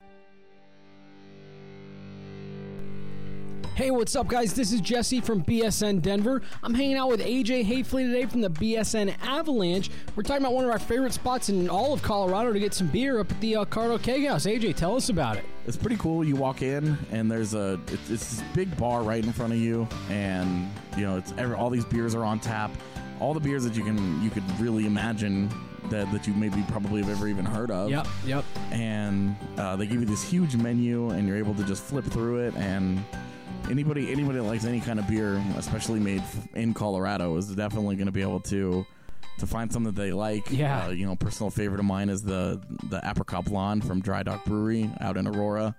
Hey, what's up, guys? This is Jesse from BSN Denver. I'm hanging out with AJ Hayfley today from the BSN Avalanche. We're talking about one of our favorite spots in all of Colorado to get some beer up at the Cardo Keg House. AJ, tell us about it. It's pretty cool. You walk in, and there's it's this big bar right in front of you, and all these beers are on tap. All the beers that you could really imagine that you maybe probably have ever even heard of. Yep. And they give you this huge menu, and you're able to just flip through it, and Anybody that likes any kind of beer, especially made in Colorado, is definitely going to be able to find something that they like. Yeah. Personal favorite of mine is the Apricot Blonde from Dry Dock Brewery out in Aurora,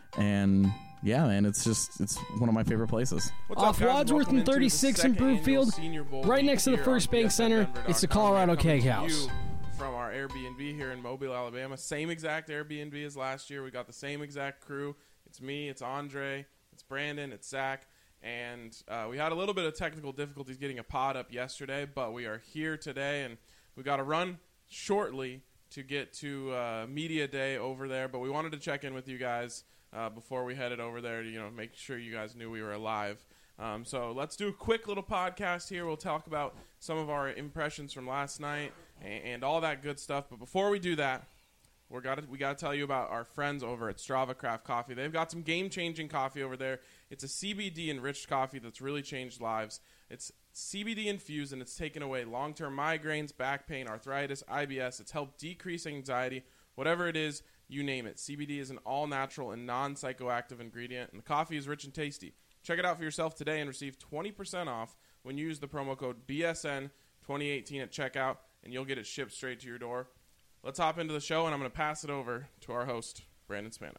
and yeah, man, it's one of my favorite places. Off Wadsworth and 36 in Brookfield, right next to the First Bank Center. It's the Colorado Keg House. From our Airbnb here in Mobile, Alabama, same exact Airbnb as last year. We got the same exact crew. It's me, it's Andre, it's Brandon, it's Zach, and we had a little bit of technical difficulties getting a pod up yesterday, but we are here today, and we got to run shortly to get to Media Day over there, but we wanted to check in with you guys before we headed over there to make sure you guys knew we were alive. So let's do a quick little podcast here. We'll talk about some of our impressions from last night and all that good stuff, but before we do that, we got to tell you about our friends over at Strava Craft Coffee. They've got some game-changing coffee over there. It's a CBD-enriched coffee that's really changed lives. It's CBD-infused, and it's taken away long-term migraines, back pain, arthritis, IBS. It's helped decrease anxiety. Whatever it is, you name it. CBD is an all-natural and non-psychoactive ingredient, and the coffee is rich and tasty. Check it out for yourself today and receive 20% off when you use the promo code BSN2018 at checkout, and you'll get it shipped straight to your door. Let's hop into the show, and I'm going to pass it over to our host, Brandon Spano.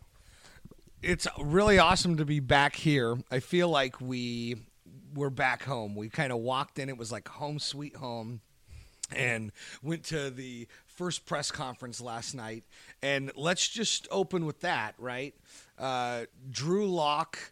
It's really awesome to be back here. I feel like we're back home. We kind of walked in. It was like home sweet home, and went to the first press conference last night. And let's just open with that, right? Drew Lock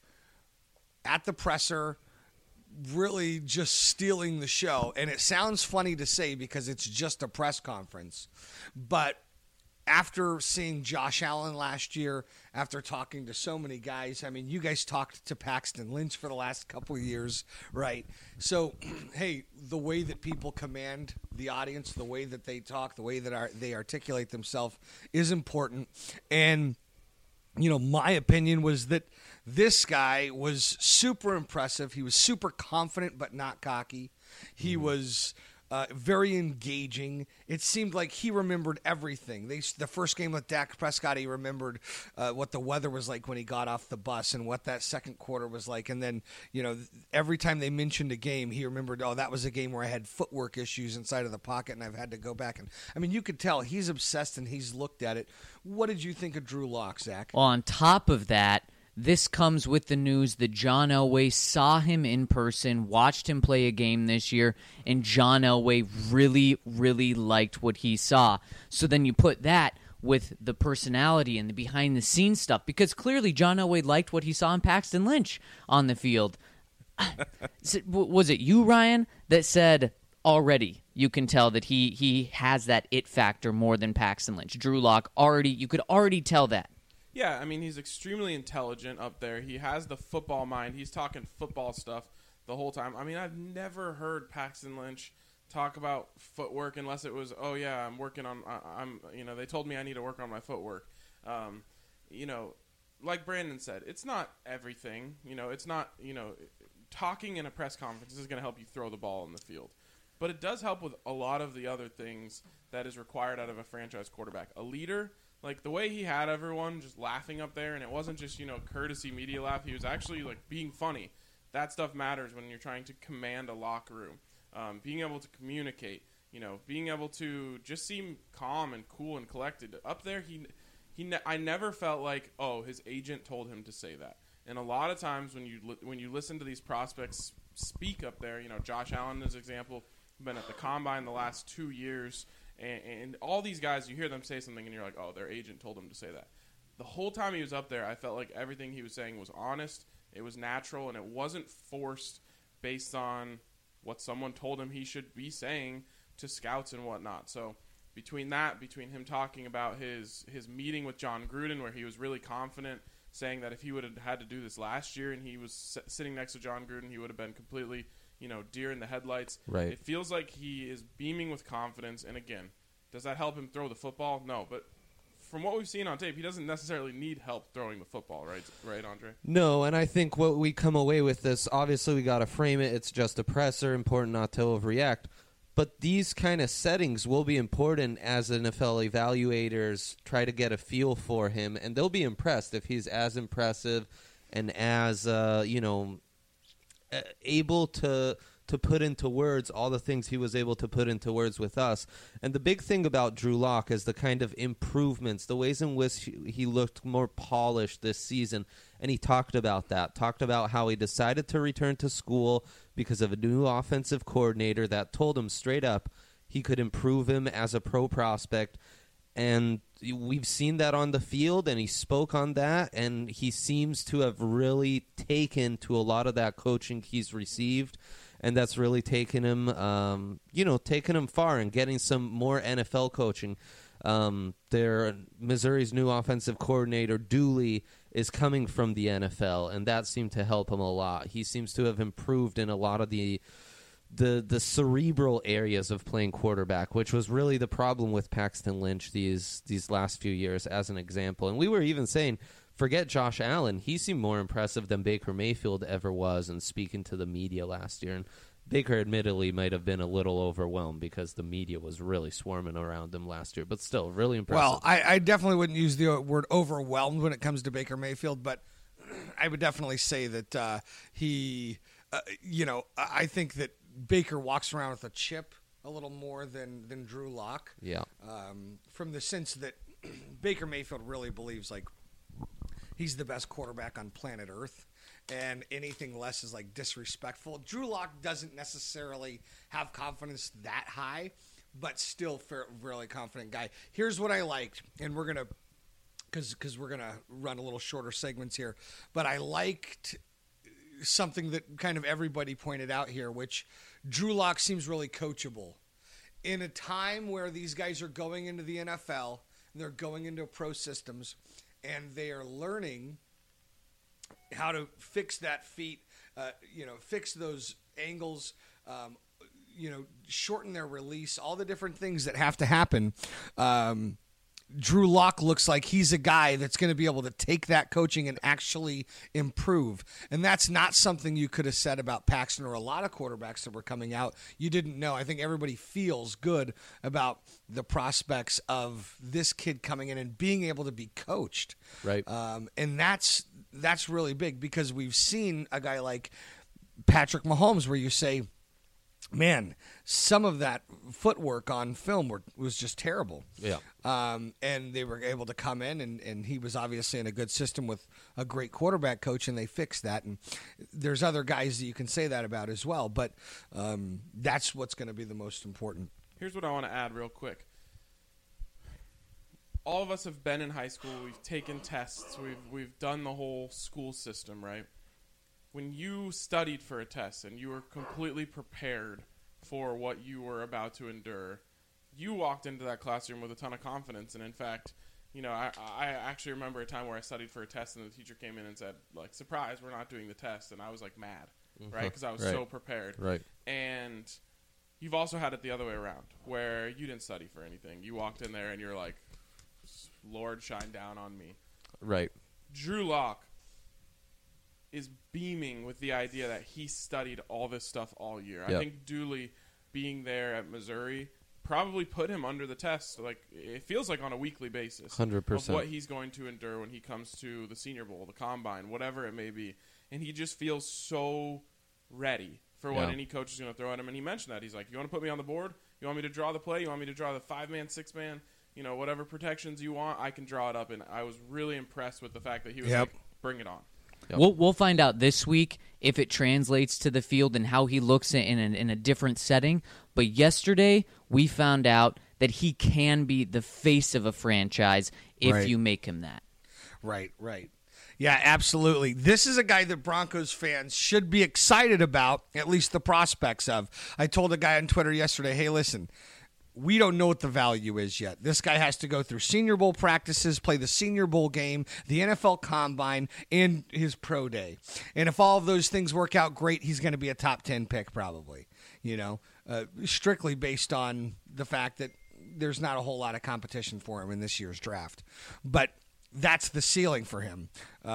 at the presser, really just stealing the show. And it sounds funny to say because it's just a press conference. But after seeing Josh Allen last year, after talking to so many guys, I mean, you guys talked to Paxton Lynch for the last couple of years, right? So, hey, the way that people command the audience, the way that they talk, the way that they articulate themselves is important. And my opinion was that this guy was super impressive. He was super confident but not cocky. He was very engaging. It seemed like he remembered everything. The first game with Dak Prescott, he remembered what the weather was like when he got off the bus and what that second quarter was like. And then, every time they mentioned a game, he remembered, that was a game where I had footwork issues inside of the pocket and I've had to go back. And I mean, you could tell he's obsessed and he's looked at it. What did you think of Drew Lock, Zach? Well, on top of that, this comes with the news that John Elway saw him in person, watched him play a game this year, and John Elway really, really liked what he saw. So then you put that with the personality and the behind-the-scenes stuff, because clearly John Elway liked what he saw in Paxton Lynch on the field. Was it you, Ryan, that said already you can tell that he has that it factor more than Paxton Lynch? Drew Lock, you could already tell that. Yeah, I mean, he's extremely intelligent up there. He has the football mind. He's talking football stuff the whole time. I mean, I've never heard Paxton Lynch talk about footwork unless it was, I'm working on, they told me I need to work on my footwork. Like Brandon said, it's not everything. It's not, talking in a press conference is going to help you throw the ball in the field. But it does help with a lot of the other things that is required out of a franchise quarterback. A leader. Like, the way he had everyone just laughing up there, and it wasn't just, courtesy media laugh. He was actually, being funny. That stuff matters when you're trying to command a locker room. Being able to communicate, being able to just seem calm and cool and collected. Up there, I never felt like, his agent told him to say that. And a lot of times when you listen to these prospects speak up there, Josh Allen is an example, been at the Combine the last 2 years, and all these guys, you hear them say something, and you're like, their agent told them to say that. The whole time he was up there, I felt like everything he was saying was honest, it was natural, and it wasn't forced based on what someone told him he should be saying to scouts and whatnot. So between him talking about his meeting with John Gruden, where he was really confident, saying that if he would have had to do this last year and he was sitting next to John Gruden, he would have been completely, deer in the headlights. Right. It feels like he is beaming with confidence. And again, does that help him throw the football? No, but from what we've seen on tape, he doesn't necessarily need help throwing the football, right, Andre? No, and I think what we come away with this, obviously we got to frame it. It's just a presser, important not to overreact. But these kind of settings will be important as NFL evaluators try to get a feel for him, and they'll be impressed if he's as impressive and as able to put into words all the things he was able to put into words with us. And the big thing about Drew Lock is the kind of improvements, the ways in which he looked more polished this season. And he talked about that, talked about how he decided to return to school because of a new offensive coordinator that told him straight up he could improve him as a pro prospect. And we've seen that on the field, and he spoke on that, and he seems to have really taken to a lot of that coaching he's received. And that's really taken him, taken him far and getting some more NFL coaching. Missouri's new offensive coordinator, Dooley, is coming from the NFL, and that seemed to help him a lot. He seems to have improved in a lot of the cerebral areas of playing quarterback, which was really the problem with Paxton Lynch these last few years, as an example. And we were even saying, forget Josh Allen. He seemed more impressive than Baker Mayfield ever was in speaking to the media last year. And Baker admittedly might have been a little overwhelmed because the media was really swarming around him last year, but still really impressive. Well, I definitely wouldn't use the word overwhelmed when it comes to Baker Mayfield, but I would definitely say that I think that Baker walks around with a chip a little more than Drew Lock. Yeah. From the sense that Baker Mayfield really believes like he's the best quarterback on planet Earth, and anything less is like disrespectful. Drew Lock doesn't necessarily have confidence that high, but still really confident guy. Here's what I liked, and we're gonna because we're gonna run a little shorter segments here, but I liked something that kind of everybody pointed out here, which Drew Lock seems really coachable. In a time where these guys are going into the NFL, and they're going into pro systems, and they are learning how to fix that feet, fix those angles, shorten their release, all the different things that have to happen. Drew Lock looks like he's a guy that's going to be able to take that coaching and actually improve. And that's not something you could have said about Paxton or a lot of quarterbacks that were coming out. You didn't know. I think everybody feels good about the prospects of this kid coming in and being able to be coached. Right. And that's really big because we've seen a guy like Patrick Mahomes where you say, man, some of that footwork on film was just terrible. Yeah. And they were able to come in, and he was obviously in a good system with a great quarterback coach, and they fixed that. And there's other guys that you can say that about as well, but that's what's going to be the most important. Here's what I want to add real quick. All of us have been in high school. We've taken tests. We've done the whole school system, right? When you studied for a test and you were completely prepared for what you were about to endure, you walked into that classroom with a ton of confidence. And in fact, I actually remember a time where I studied for a test and the teacher came in and said, like, surprise, we're not doing the test. And I was like mad, right? Because I was so prepared. Right. And you've also had it the other way around where you didn't study for anything. You walked in there and you're like, Lord, shine down on me. Right. Drew Lock is beaming with the idea that he studied all this stuff all year. Yep. I think Dooley being there at Missouri probably put him under the test. Like, it feels like on a weekly basis. 100%. Of what he's going to endure when he comes to the Senior Bowl, the Combine, whatever it may be. And he just feels so ready for what any coach is going to throw at him. And he mentioned that. He's like, you want to put me on the board? You want me to draw the play? You want me to draw the 5-man, 6-man? Whatever protections you want, I can draw it up. And I was really impressed with the fact that he was like, bring it on. Yep. We'll find out this week if it translates to the field and how he looks in a different setting. But yesterday, we found out that he can be the face of a franchise if you make him that. Right. Yeah, absolutely. This is a guy that Broncos fans should be excited about, at least the prospects of. I told a guy on Twitter yesterday, hey, listen, we don't know what the value is yet. This guy has to go through Senior Bowl practices, play the Senior Bowl game, the NFL Combine, and his pro day. And if all of those things work out great, he's going to be a top 10 pick probably, strictly based on the fact that there's not a whole lot of competition for him in this year's draft. But that's the ceiling for him.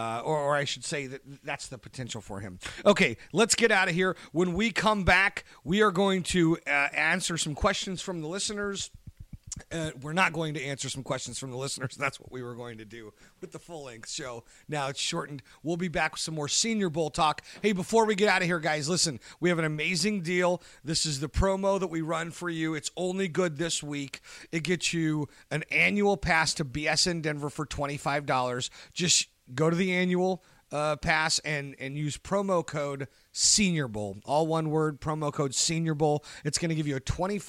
Or I should say that's the potential for him. Okay, let's get out of here. When we come back, we are going to answer some questions from the listeners. We're not going to answer some questions from the listeners. That's what we were going to do with the full-length show. Now it's shortened. We'll be back with some more Senior Bowl talk. Hey, before we get out of here, guys, listen, we have an amazing deal. This is the promo that we run for you. It's only good this week. It gets you an annual pass to BSN Denver for $25. Just go to the annual pass and use promo code Senior Bowl. All one word, promo code Senior Bowl. It's going to give you a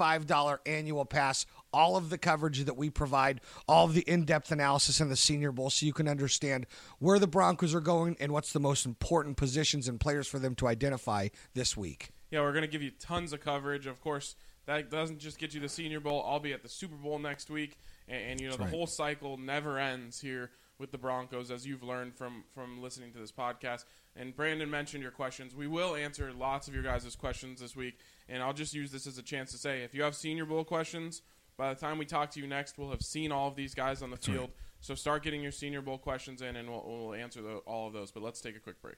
$25 annual pass, all of the coverage that we provide, all of the in-depth analysis in the Senior Bowl so you can understand where the Broncos are going and what's the most important positions and players for them to identify this week. Yeah, we're going to give you tons of coverage. Of course, that doesn't just get you the Senior Bowl. I'll be at the Super Bowl next week, and the whole cycle never ends here with the Broncos, as you've learned from listening to this podcast. And Brandon mentioned your questions. We will answer lots of your guys' questions this week, and I'll just use this as a chance to say, if you have Senior Bowl questions, by the time we talk to you next, we'll have seen all of these guys on the field. Right. So start getting your Senior Bowl questions in, and we'll answer all of those. But let's take a quick break.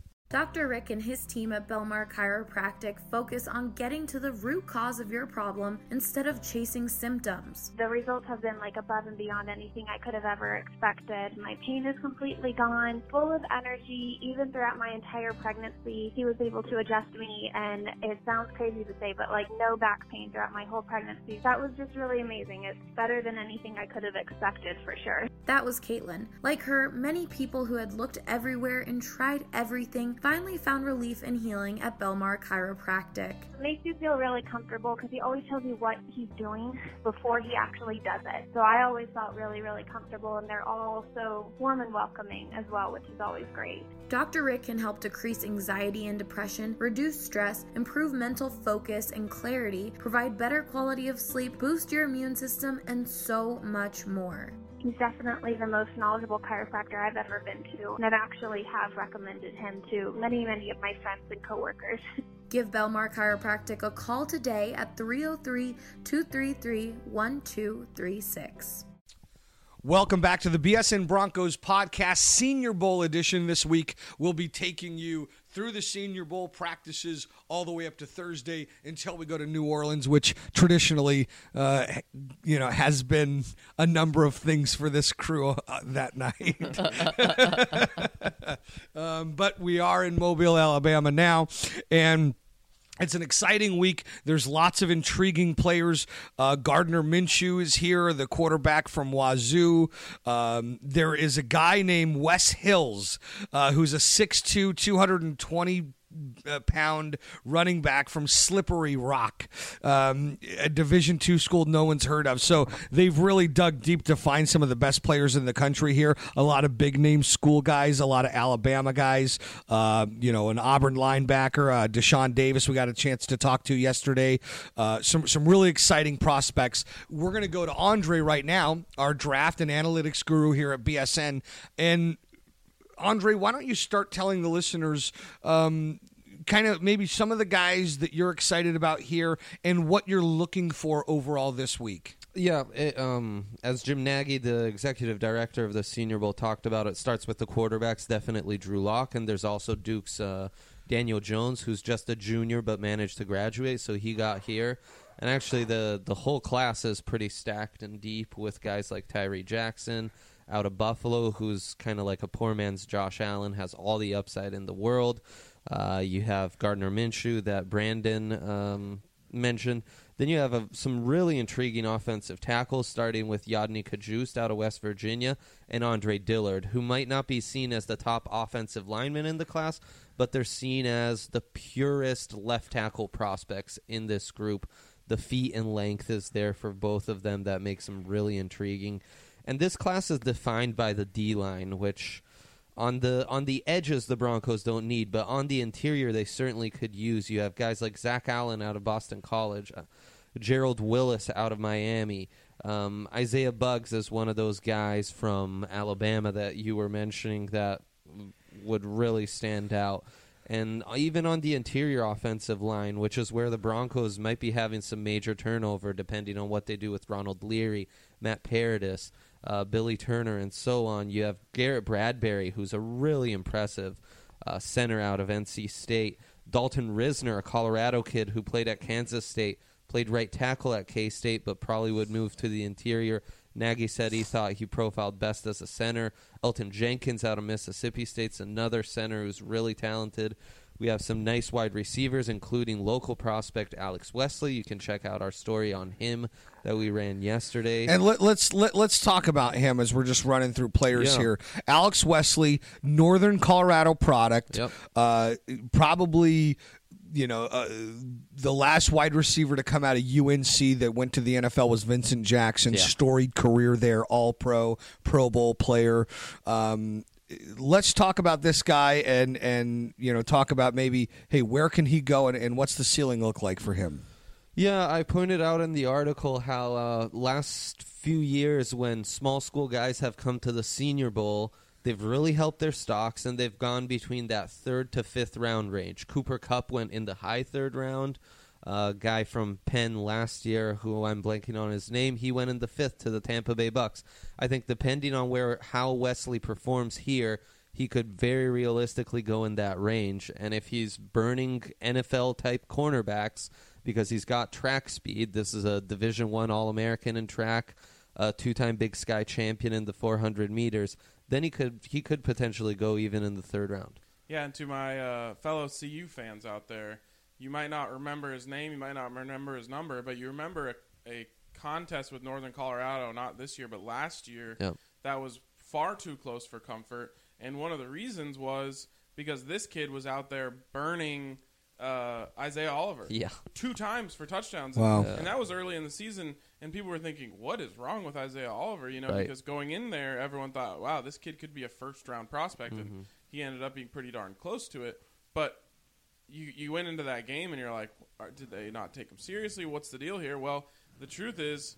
Dr. Rick and his team at Belmar Chiropractic focus on getting to the root cause of your problem instead of chasing symptoms. The results have been above and beyond anything I could have ever expected. My pain is completely gone, full of energy. Even throughout my entire pregnancy, he was able to adjust me, and it sounds crazy to say, but no back pain throughout my whole pregnancy. That was just really amazing. It's better than anything I could have expected for sure. That was Caitlin. Like her, many people who had looked everywhere and tried everything finally found relief and healing at Belmar Chiropractic. It makes you feel really comfortable because he always tells you what he's doing before he actually does it. So I always felt really, really comfortable, and they're all so warm and welcoming as well, which is always great. Dr. Rick can help decrease anxiety and depression, reduce stress, improve mental focus and clarity, provide better quality of sleep, boost your immune system, and so much more. He's definitely the most knowledgeable chiropractor I've ever been to, and I've actually have recommended him to many, many of my friends and coworkers. Give Belmar Chiropractic a call today at 303-233-1236. Welcome back to the BSN Broncos podcast, Senior Bowl edition. This week, we'll be taking you through the Senior Bowl practices all the way up to Thursday until we go to New Orleans, which traditionally, has been a number of things for this crew that night. But we are in Mobile, Alabama now, and it's an exciting week. There's lots of intriguing players. Gardner Minshew is here, the quarterback from Wazoo. There is a guy named Wes Hills, who's a 6'2", 220-pound running back from Slippery Rock, a Division II school no one's heard of. So they've really dug deep to find some of the best players in the country here. A lot of big-name school guys, a lot of Alabama guys, an Auburn linebacker, Deshaun Davis, we got a chance to talk to yesterday. Some really exciting prospects. We're going to go to Andre right now, our draft and analytics guru here at BSN. And Andre, why don't you start telling the listeners kind of maybe some of the guys that you're excited about here and what you're looking for overall this week? Yeah, as Jim Nagy, the executive director of the Senior Bowl, talked about, it starts with the quarterbacks, definitely Drew Lock, and there's also Duke's Daniel Jones, who's just a junior but managed to graduate, so he got here. And actually the whole class is pretty stacked and deep with guys like Tyree Jackson out of Buffalo, who's kind of like a poor man's Josh Allen, has all the upside in the world. You have Gardner Minshew that Brandon mentioned. Then you have some really intriguing offensive tackles, starting with Yodny Kajust out of West Virginia and Andre Dillard, who might not be seen as the top offensive lineman in the class, but they're seen as the purest left tackle prospects in this group. The feet and length is there for both of them. That makes them really intriguing. And this class is defined by the D-line, which on the edges the Broncos don't need, but on the interior they certainly could use. You have guys like Zach Allen out of Boston College, Gerald Willis out of Miami. Isaiah Buggs is one of those guys from Alabama that you were mentioning that would really stand out. And even on the interior offensive line, which is where the Broncos might be having some major turnover depending on what they do with Ronald Leary, Matt Paradis, Billy Turner, and so on. You have Garrett Bradbury, who's a really impressive center out of NC State. Dalton Risner, a Colorado kid who played at Kansas State, played right tackle at K-State, but probably would move to the interior. Nagy said he thought he profiled best as a center. Elton Jenkins out of Mississippi State's another center who's really talented. We have some nice wide receivers, including local prospect Alex Wesley. You can check out our story on him that we ran yesterday. And let's talk about him as we're just running through players here. Alex Wesley, Northern Colorado product. Yep. Probably, the last wide receiver to come out of UNC that went to the NFL was Vincent Jackson. Yeah. Storied career there, All-Pro, Pro Bowl player. Let's talk about this guy and talk about maybe, hey, where can he go and what's the ceiling look like for him? Yeah, I pointed out in the article how last few years when small school guys have come to the Senior Bowl, they've really helped their stocks, and they've gone between that 3rd to 5th round range. Cooper Kupp went in the high 3rd round. Guy from Penn last year, who I'm blanking on his name, he went in the 5th to the Tampa Bay Bucks. I think depending on how Wesley performs here, he could very realistically go in that range. And if he's burning NFL-type cornerbacks because he's got track speed, this is a Division I All-American in track, a 2-time Big Sky champion in the 400 meters, then he could potentially go even in the 3rd round. Yeah, and to my fellow CU fans out there, you might not remember his name, you might not remember his number, but you remember a contest with Northern Colorado, not this year, but last year, that was far too close for comfort. And one of the reasons was because this kid was out there burning Isaiah Oliver 2 times for touchdowns. Wow. And that was early in the season, and people were thinking, what is wrong with Isaiah Oliver? Right. Because going in there, everyone thought, wow, this kid could be a first-round prospect, and he ended up being pretty darn close to it. But you went into that game, and you're like, did they not take him seriously? What's the deal here? Well, the truth is,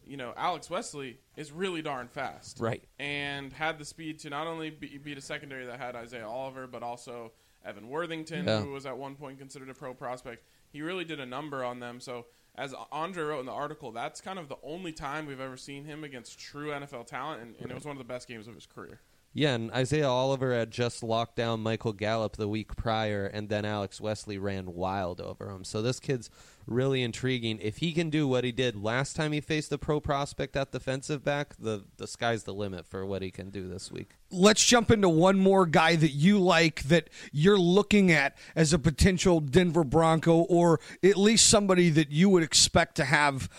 Alex Wesley is really darn fast. Right. And had the speed to not only beat a secondary that had Isaiah Oliver, but also Evan Worthington, who was at one point considered a pro prospect. He really did a number on them. So as Andre wrote in the article, that's kind of the only time we've ever seen him against true NFL talent, and it was one of the best games of his career. Yeah, and Isaiah Oliver had just locked down Michael Gallup the week prior, and then Alex Wesley ran wild over him. So this kid's really intriguing. If he can do what he did last time he faced a pro prospect at defensive back, the sky's the limit for what he can do this week. Let's jump into one more guy that you like, that you're looking at as a potential Denver Bronco, or at least somebody that you would expect to have,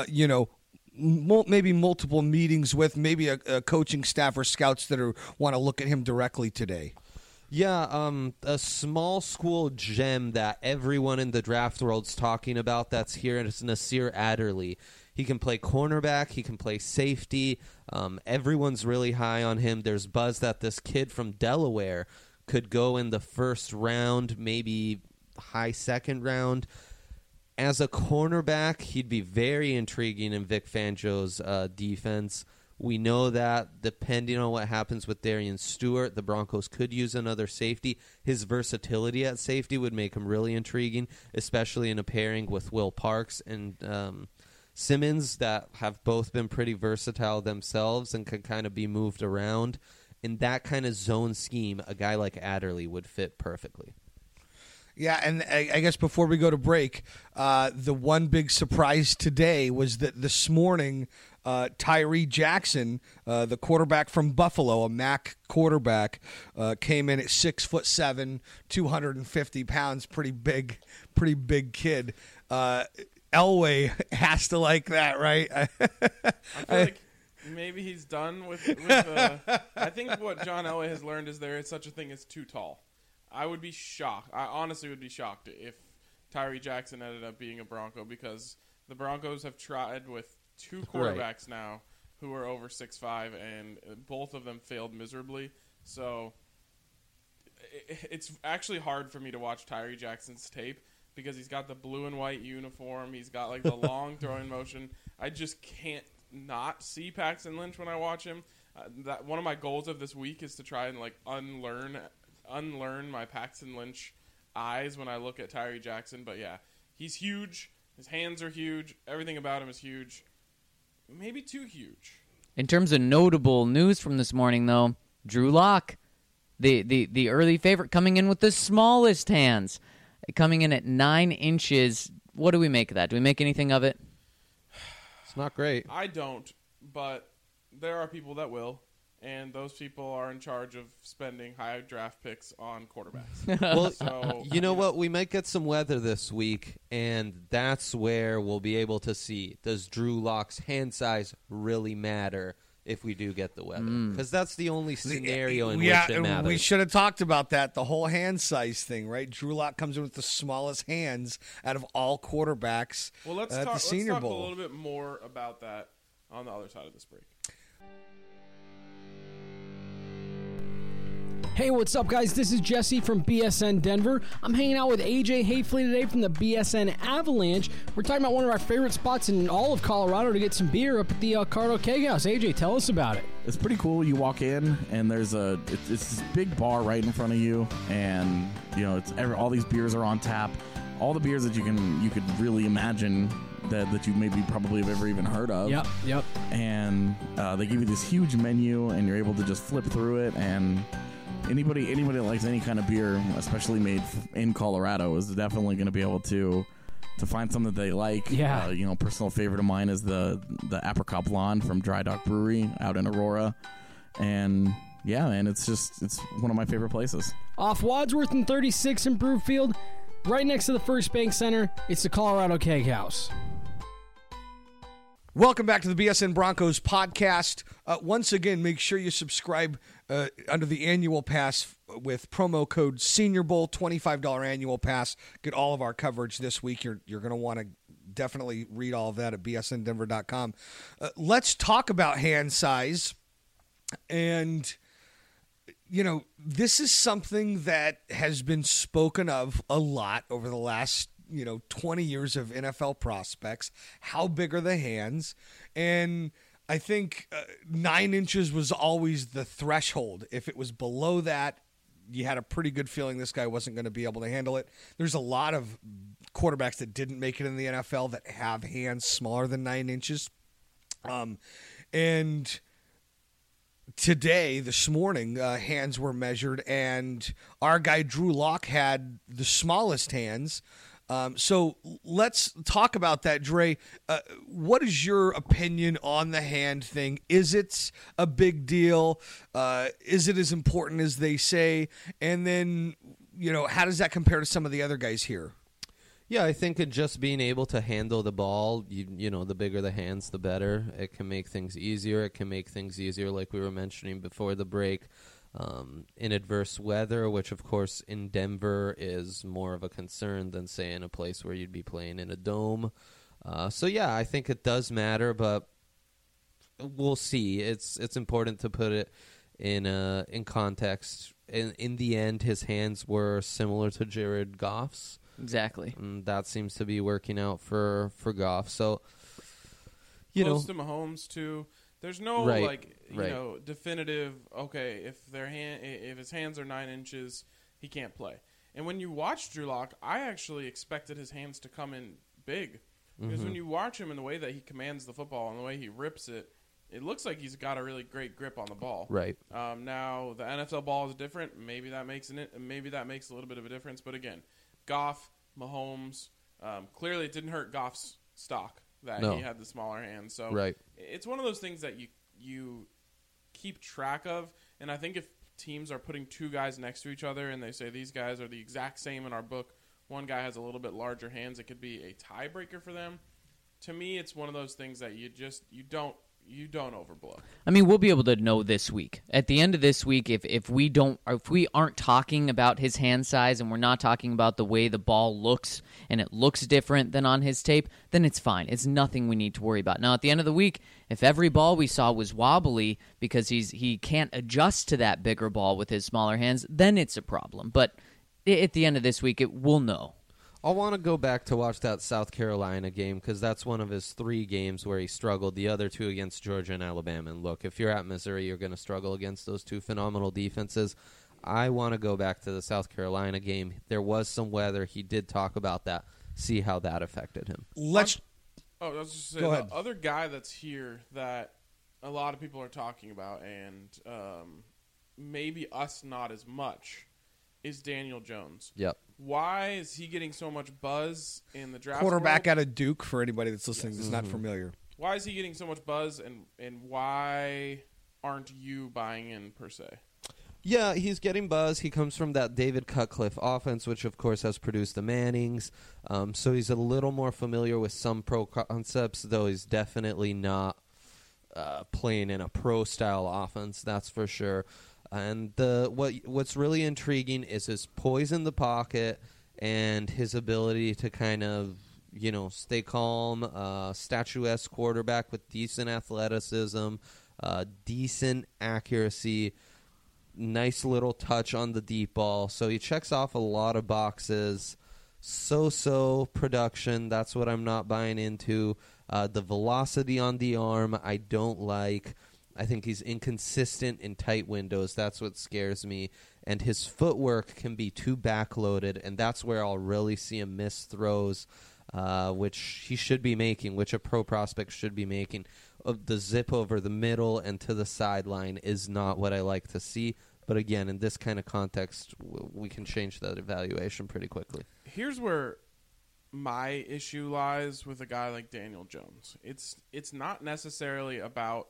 maybe multiple meetings with, maybe a coaching staff or scouts that want to look at him directly today. Yeah, a small school gem that everyone in the draft world's talking about that's here is Nasir Adderley. He can play cornerback. He can play safety. Everyone's really high on him. There's buzz that this kid from Delaware could go in the 1st round, maybe high 2nd round. As a cornerback, he'd be very intriguing in Vic Fangio's defense. We know that depending on what happens with Darian Stewart, the Broncos could use another safety. His versatility at safety would make him really intriguing, especially in a pairing with Will Parks and Simmons that have both been pretty versatile themselves and can kind of be moved around. In that kind of zone scheme, a guy like Adderley would fit perfectly. Yeah, and I guess before we go to break, the one big surprise today was that this morning, Tyree Jackson, the quarterback from Buffalo, a MAC quarterback, came in at 6'7", 250 pounds, pretty big kid. Elway has to like that, right? I feel like maybe he's done with I think what John Elway has learned is there is such a thing as too tall. I would be shocked. I honestly would be shocked if Tyree Jackson ended up being a Bronco, because the Broncos have tried with 2 quarterbacks now who are over 6'5", and both of them failed miserably. So it's actually hard for me to watch Tyree Jackson's tape because he's got the blue and white uniform. He's got like the long throwing motion. I just can't not see Paxton Lynch when I watch him. That one of my goals of this week is to try and like unlearn my Paxton Lynch eyes when I look at Tyree Jackson. But yeah, he's huge. His hands are huge. Everything about him is huge. Maybe too huge. In terms of notable news from this morning, though, Drew Lock, the early favorite, coming in with the smallest hands, coming in at 9 inches. What do we make of that? Do we make anything of it? It's not great. I don't, but there are people that will, and those people are in charge of spending high draft picks on quarterbacks. Well, So you know what? We might get some weather this week, and that's where we'll be able to see, does Drew Lock's hand size really matter if we do get the weather? Because that's the only scenario in which it matters. We should have talked about that, the whole hand size thing, right? Drew Lock comes in with the smallest hands out of all quarterbacks well, let's at talk, the Senior let's talk Bowl. a little bit more about that on the other side of this break. Hey, what's up, guys? This is Jesse from BSN Denver. I'm hanging out with AJ Hafley today from the BSN Avalanche. We're talking about one of our favorite spots in all of Colorado to get some beer up at the Cardo Keg House. AJ, tell us about it. It's pretty cool. You walk in and there's it's this big bar right in front of you, and you know all these beers are on tap. All the beers that you could really imagine that you maybe probably have ever even heard of. Yep. And they give you this huge menu, and you're able to just flip through it. And anybody that likes any kind of beer, especially made in Colorado, is definitely going to be able to find something that they like. Yeah. Personal favorite of mine is the Apricot Blonde from Dry Dock Brewery out in Aurora, and yeah, man, it's one of my favorite places. Off Wadsworth and 36 in Brookfield, right next to the First Bank Center, it's the Colorado Keg House. Welcome back to the BSN Broncos podcast. Once again, make sure you subscribe under the annual pass with promo code Senior Bowl, $25 annual pass. Get all of our coverage this week. You're going to want to definitely read all of that at bsndenver.com. Let's talk about hand size. And, this is something that has been spoken of a lot over the last 20 years of NFL prospects. How big are the hands? And I think 9 inches was always the threshold. If it was below that, you had a pretty good feeling this guy wasn't going to be able to handle it. There's a lot of quarterbacks that didn't make it in the NFL that have hands smaller than 9 inches. And today, this morning, hands were measured, and our guy Drew Lock had the smallest hands. So let's talk about that, Dre. What is your opinion on the hand thing? Is it a big deal? Is it as important as they say? And then, how does that compare to some of the other guys here? Yeah, I think just being able to handle the ball, the bigger the hands, the better. It can make things easier. It can make things easier, like we were mentioning before the break. In adverse weather, which of course in Denver is more of a concern than say in a place where you'd be playing in a dome. So yeah, I think it does matter, but we'll see. It's important to put it in context. In the end, his hands were similar to Jared Goff's. Exactly. And that seems to be working out for Goff. So Close to Mahomes too. There's no definitive. Okay, if his hands are 9 inches, he can't play. And when you watch Drew Lock, I actually expected his hands to come in big because when you watch him and the way that he commands the football and the way he rips it, it looks like he's got a really great grip on the ball. Right. Now the NFL ball is different. Maybe that makes a little bit of a difference. But again, Goff, Mahomes, clearly it didn't hurt Goff's stock that he had the smaller hands. So it's one of those things that you keep track of. And I think if teams are putting two guys next to each other and they say these guys are the exact same in our book, one guy has a little bit larger hands, it could be a tiebreaker for them. To me, it's one of those things that you don't overblow. I mean, we'll be able to know this week. At the end of this week, if we aren't talking about his hand size and we're not talking about the way the ball looks and it looks different than on his tape, then it's fine. It's nothing we need to worry about. Now, at the end of the week, if every ball we saw was wobbly because he can't adjust to that bigger ball with his smaller hands, then it's a problem. But at the end of this week, we'll know. I'll want to go back to watch that South Carolina game because that's one of his 3 games where he struggled. The other 2 against Georgia and Alabama. And look, if you're at Missouri, you're going to struggle against those 2 phenomenal defenses. I want to go back to the South Carolina game. There was some weather. He did talk about that. See how that affected him. I was just Go saying, ahead. the other guy that's here that a lot of people are talking about, and maybe us not as much, is Daniel Jones. Yep. Why is he getting so much buzz in the draft? Quarterback world? out of Duke, for anybody that's listening that's not familiar. Why is he getting so much buzz, and why aren't you buying in per se? Yeah, he's getting buzz. He comes from that David Cutcliffe offense, which, of course, has produced the Mannings. So he's a little more familiar with some pro concepts, though he's definitely not playing in a pro-style offense, that's for sure. And what's really intriguing is his poise in the pocket and his ability to kind of, stay calm, statuesque quarterback with decent athleticism, decent accuracy, nice little touch on the deep ball. So he checks off a lot of boxes. So production, that's what I'm not buying into. The velocity on the arm, I don't like. I think he's inconsistent in tight windows. That's what scares me. And his footwork can be too backloaded, and that's where I'll really see him miss throws, which he should be making, which a pro prospect should be making. The zip over the middle and to the sideline is not what I like to see. But again, in this kind of context, we can change that evaluation pretty quickly. Here's where my issue lies with a guy like Daniel Jones. It's not necessarily about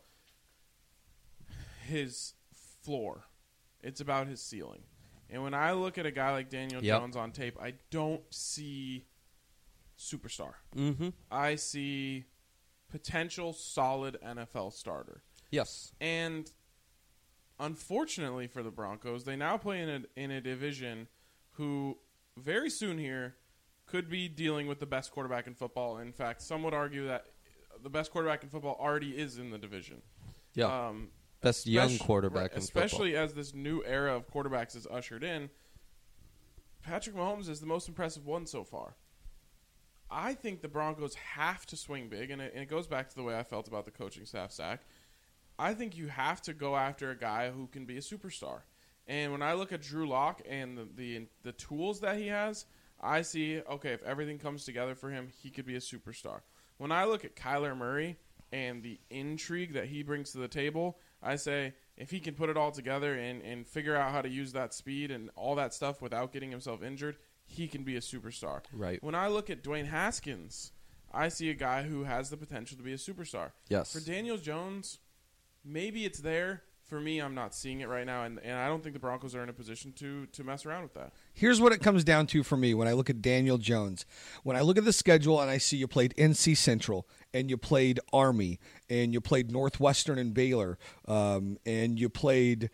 his floor. It's about his ceiling. And when I look at a guy like Daniel Jones on tape, I don't see superstar. Mm-hmm. I see potential solid NFL starter. Yes. And unfortunately for the Broncos, they now play in a division who very soon here could be dealing with the best quarterback in football. In fact, some would argue that the best quarterback in football already is in the division. Yeah. Best young quarterback in football. Especially as this new era of quarterbacks is ushered in. Patrick Mahomes is the most impressive one so far. I think the Broncos have to swing big, and it goes back to the way I felt about the coaching staff, Zach. I think you have to go after a guy who can be a superstar. And when I look at Drew Lock and the tools that he has, I see, okay, if everything comes together for him, he could be a superstar. When I look at Kyler Murray and the intrigue that he brings to the table, I say if he can put it all together and figure out how to use that speed and all that stuff without getting himself injured, he can be a superstar. Right. When I look at Dwayne Haskins, I see a guy who has the potential to be a superstar. Yes. For Daniel Jones, maybe it's there. For me, I'm not seeing it right now, and I don't think the Broncos are in a position to mess around with that. Here's what it comes down to for me when I look at Daniel Jones. When I look at the schedule and I see you played NC Central and you played Army and you played Northwestern and Baylor and you played,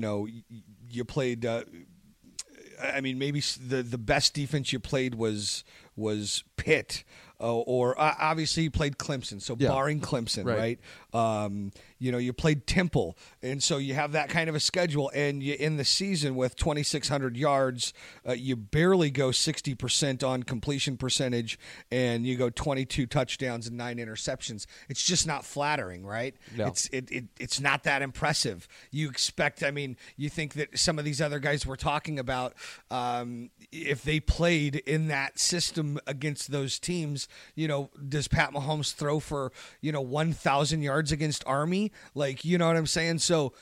maybe the best defense you played was Pitt. Or obviously you played Clemson, so barring Clemson, right? You played Temple, and so you have that kind of a schedule, and you in the season with 2,600 yards, you barely go 60% on completion percentage, and you go 22 touchdowns and 9 interceptions. It's just not flattering, right? No. It's not that impressive. You expect, you think that some of these other guys we're talking about, if they played in that system against those teams, does Pat Mahomes throw for, 1,000 yards against Army? Like, you know what I'm saying? So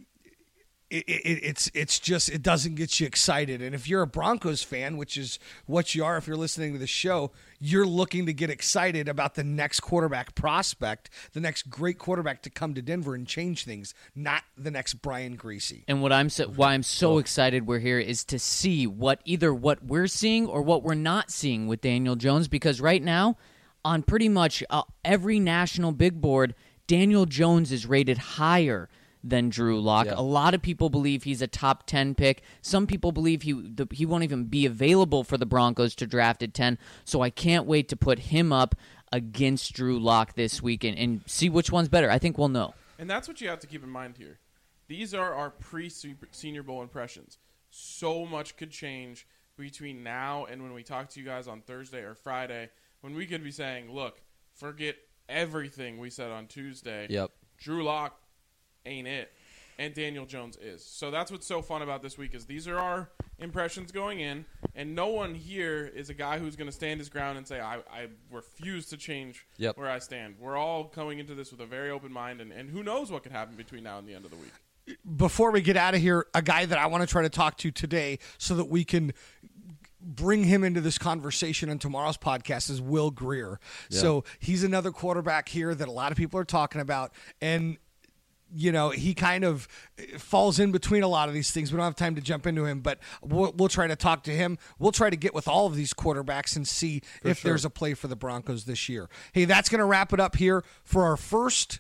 it's just, it doesn't get you excited. And if you're a Broncos fan, which is what you are if you're listening to the show, you're looking to get excited about the next quarterback prospect, the next great quarterback to come to Denver and change things, not the next Brian Griese. And why I'm so excited we're here is to see what we're seeing or what we're not seeing with Daniel Jones, because right now on pretty much every national big board, Daniel Jones is rated higher than Drew Lock. Yeah. A lot of people believe he's a top 10 pick. Some people believe he won't even be available for the Broncos to draft at 10. So I can't wait to put him up against Drew Lock this week and see which one's better. I think we'll know. And that's what you have to keep in mind here. These are our pre-Senior Bowl impressions. So much could change between now and when we talk to you guys on Thursday or Friday, when we could be saying, look, forget everything we said on Tuesday. Yep. Drew Lock ain't it, and Daniel Jones is. So that's what's so fun about this week is these are our impressions going in, and no one here is a guy who's going to stand his ground and say, I refuse to change where I stand. We're all coming into this with a very open mind, and who knows what could happen between now and the end of the week. Before we get out of here, a guy that I want to try to talk to today so that we can bring him into this conversation on tomorrow's podcast is Will Grier. Yeah. So he's another quarterback here that a lot of people are talking about, and you know, he kind of falls in between a lot of these things. We don't have time to jump into him, but we'll try to talk to him. We'll try to get with all of these quarterbacks and see if there's a play for the Broncos this year. Hey, that's going to wrap it up here for our first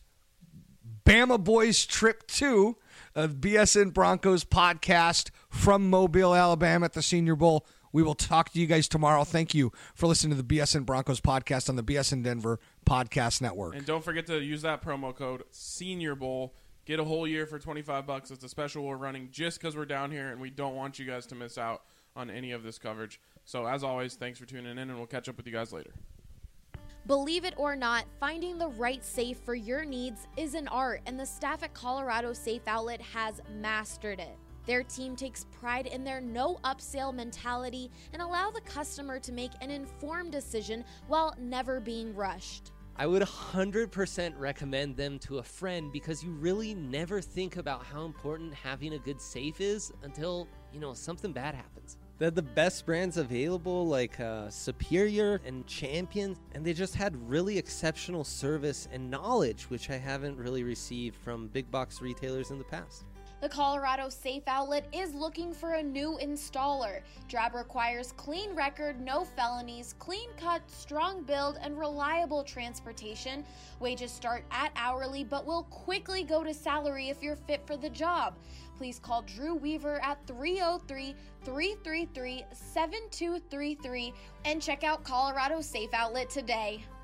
Bama Boys trip to BSN Broncos podcast from Mobile, Alabama at the Senior Bowl. We will talk to you guys tomorrow. Thank you for listening to the BSN Broncos podcast on the BSN Denver Podcast Network. And don't forget to use that promo code Senior Bowl. Get a whole year for $25. It's a special we're running just because we're down here, and we don't want you guys to miss out on any of this coverage. So, as always, thanks for tuning in, and we'll catch up with you guys later. Believe it or not, finding the right safe for your needs is an art, and the staff at Colorado Safe Outlet has mastered it. Their team takes pride in their no upsell mentality and allow the customer to make an informed decision while never being rushed. I would 100% recommend them to a friend because you really never think about how important having a good safe is until, something bad happens. They're the best brands available, like Superior and Champion, and they just had really exceptional service and knowledge, which I haven't really received from big box retailers in the past. The Colorado Safe Outlet is looking for a new installer. Job requires clean record, no felonies, clean cut, strong build, and reliable transportation. Wages start at hourly, but will quickly go to salary if you're fit for the job. Please call Drew Weaver at 303-333-7233 and check out Colorado Safe Outlet today.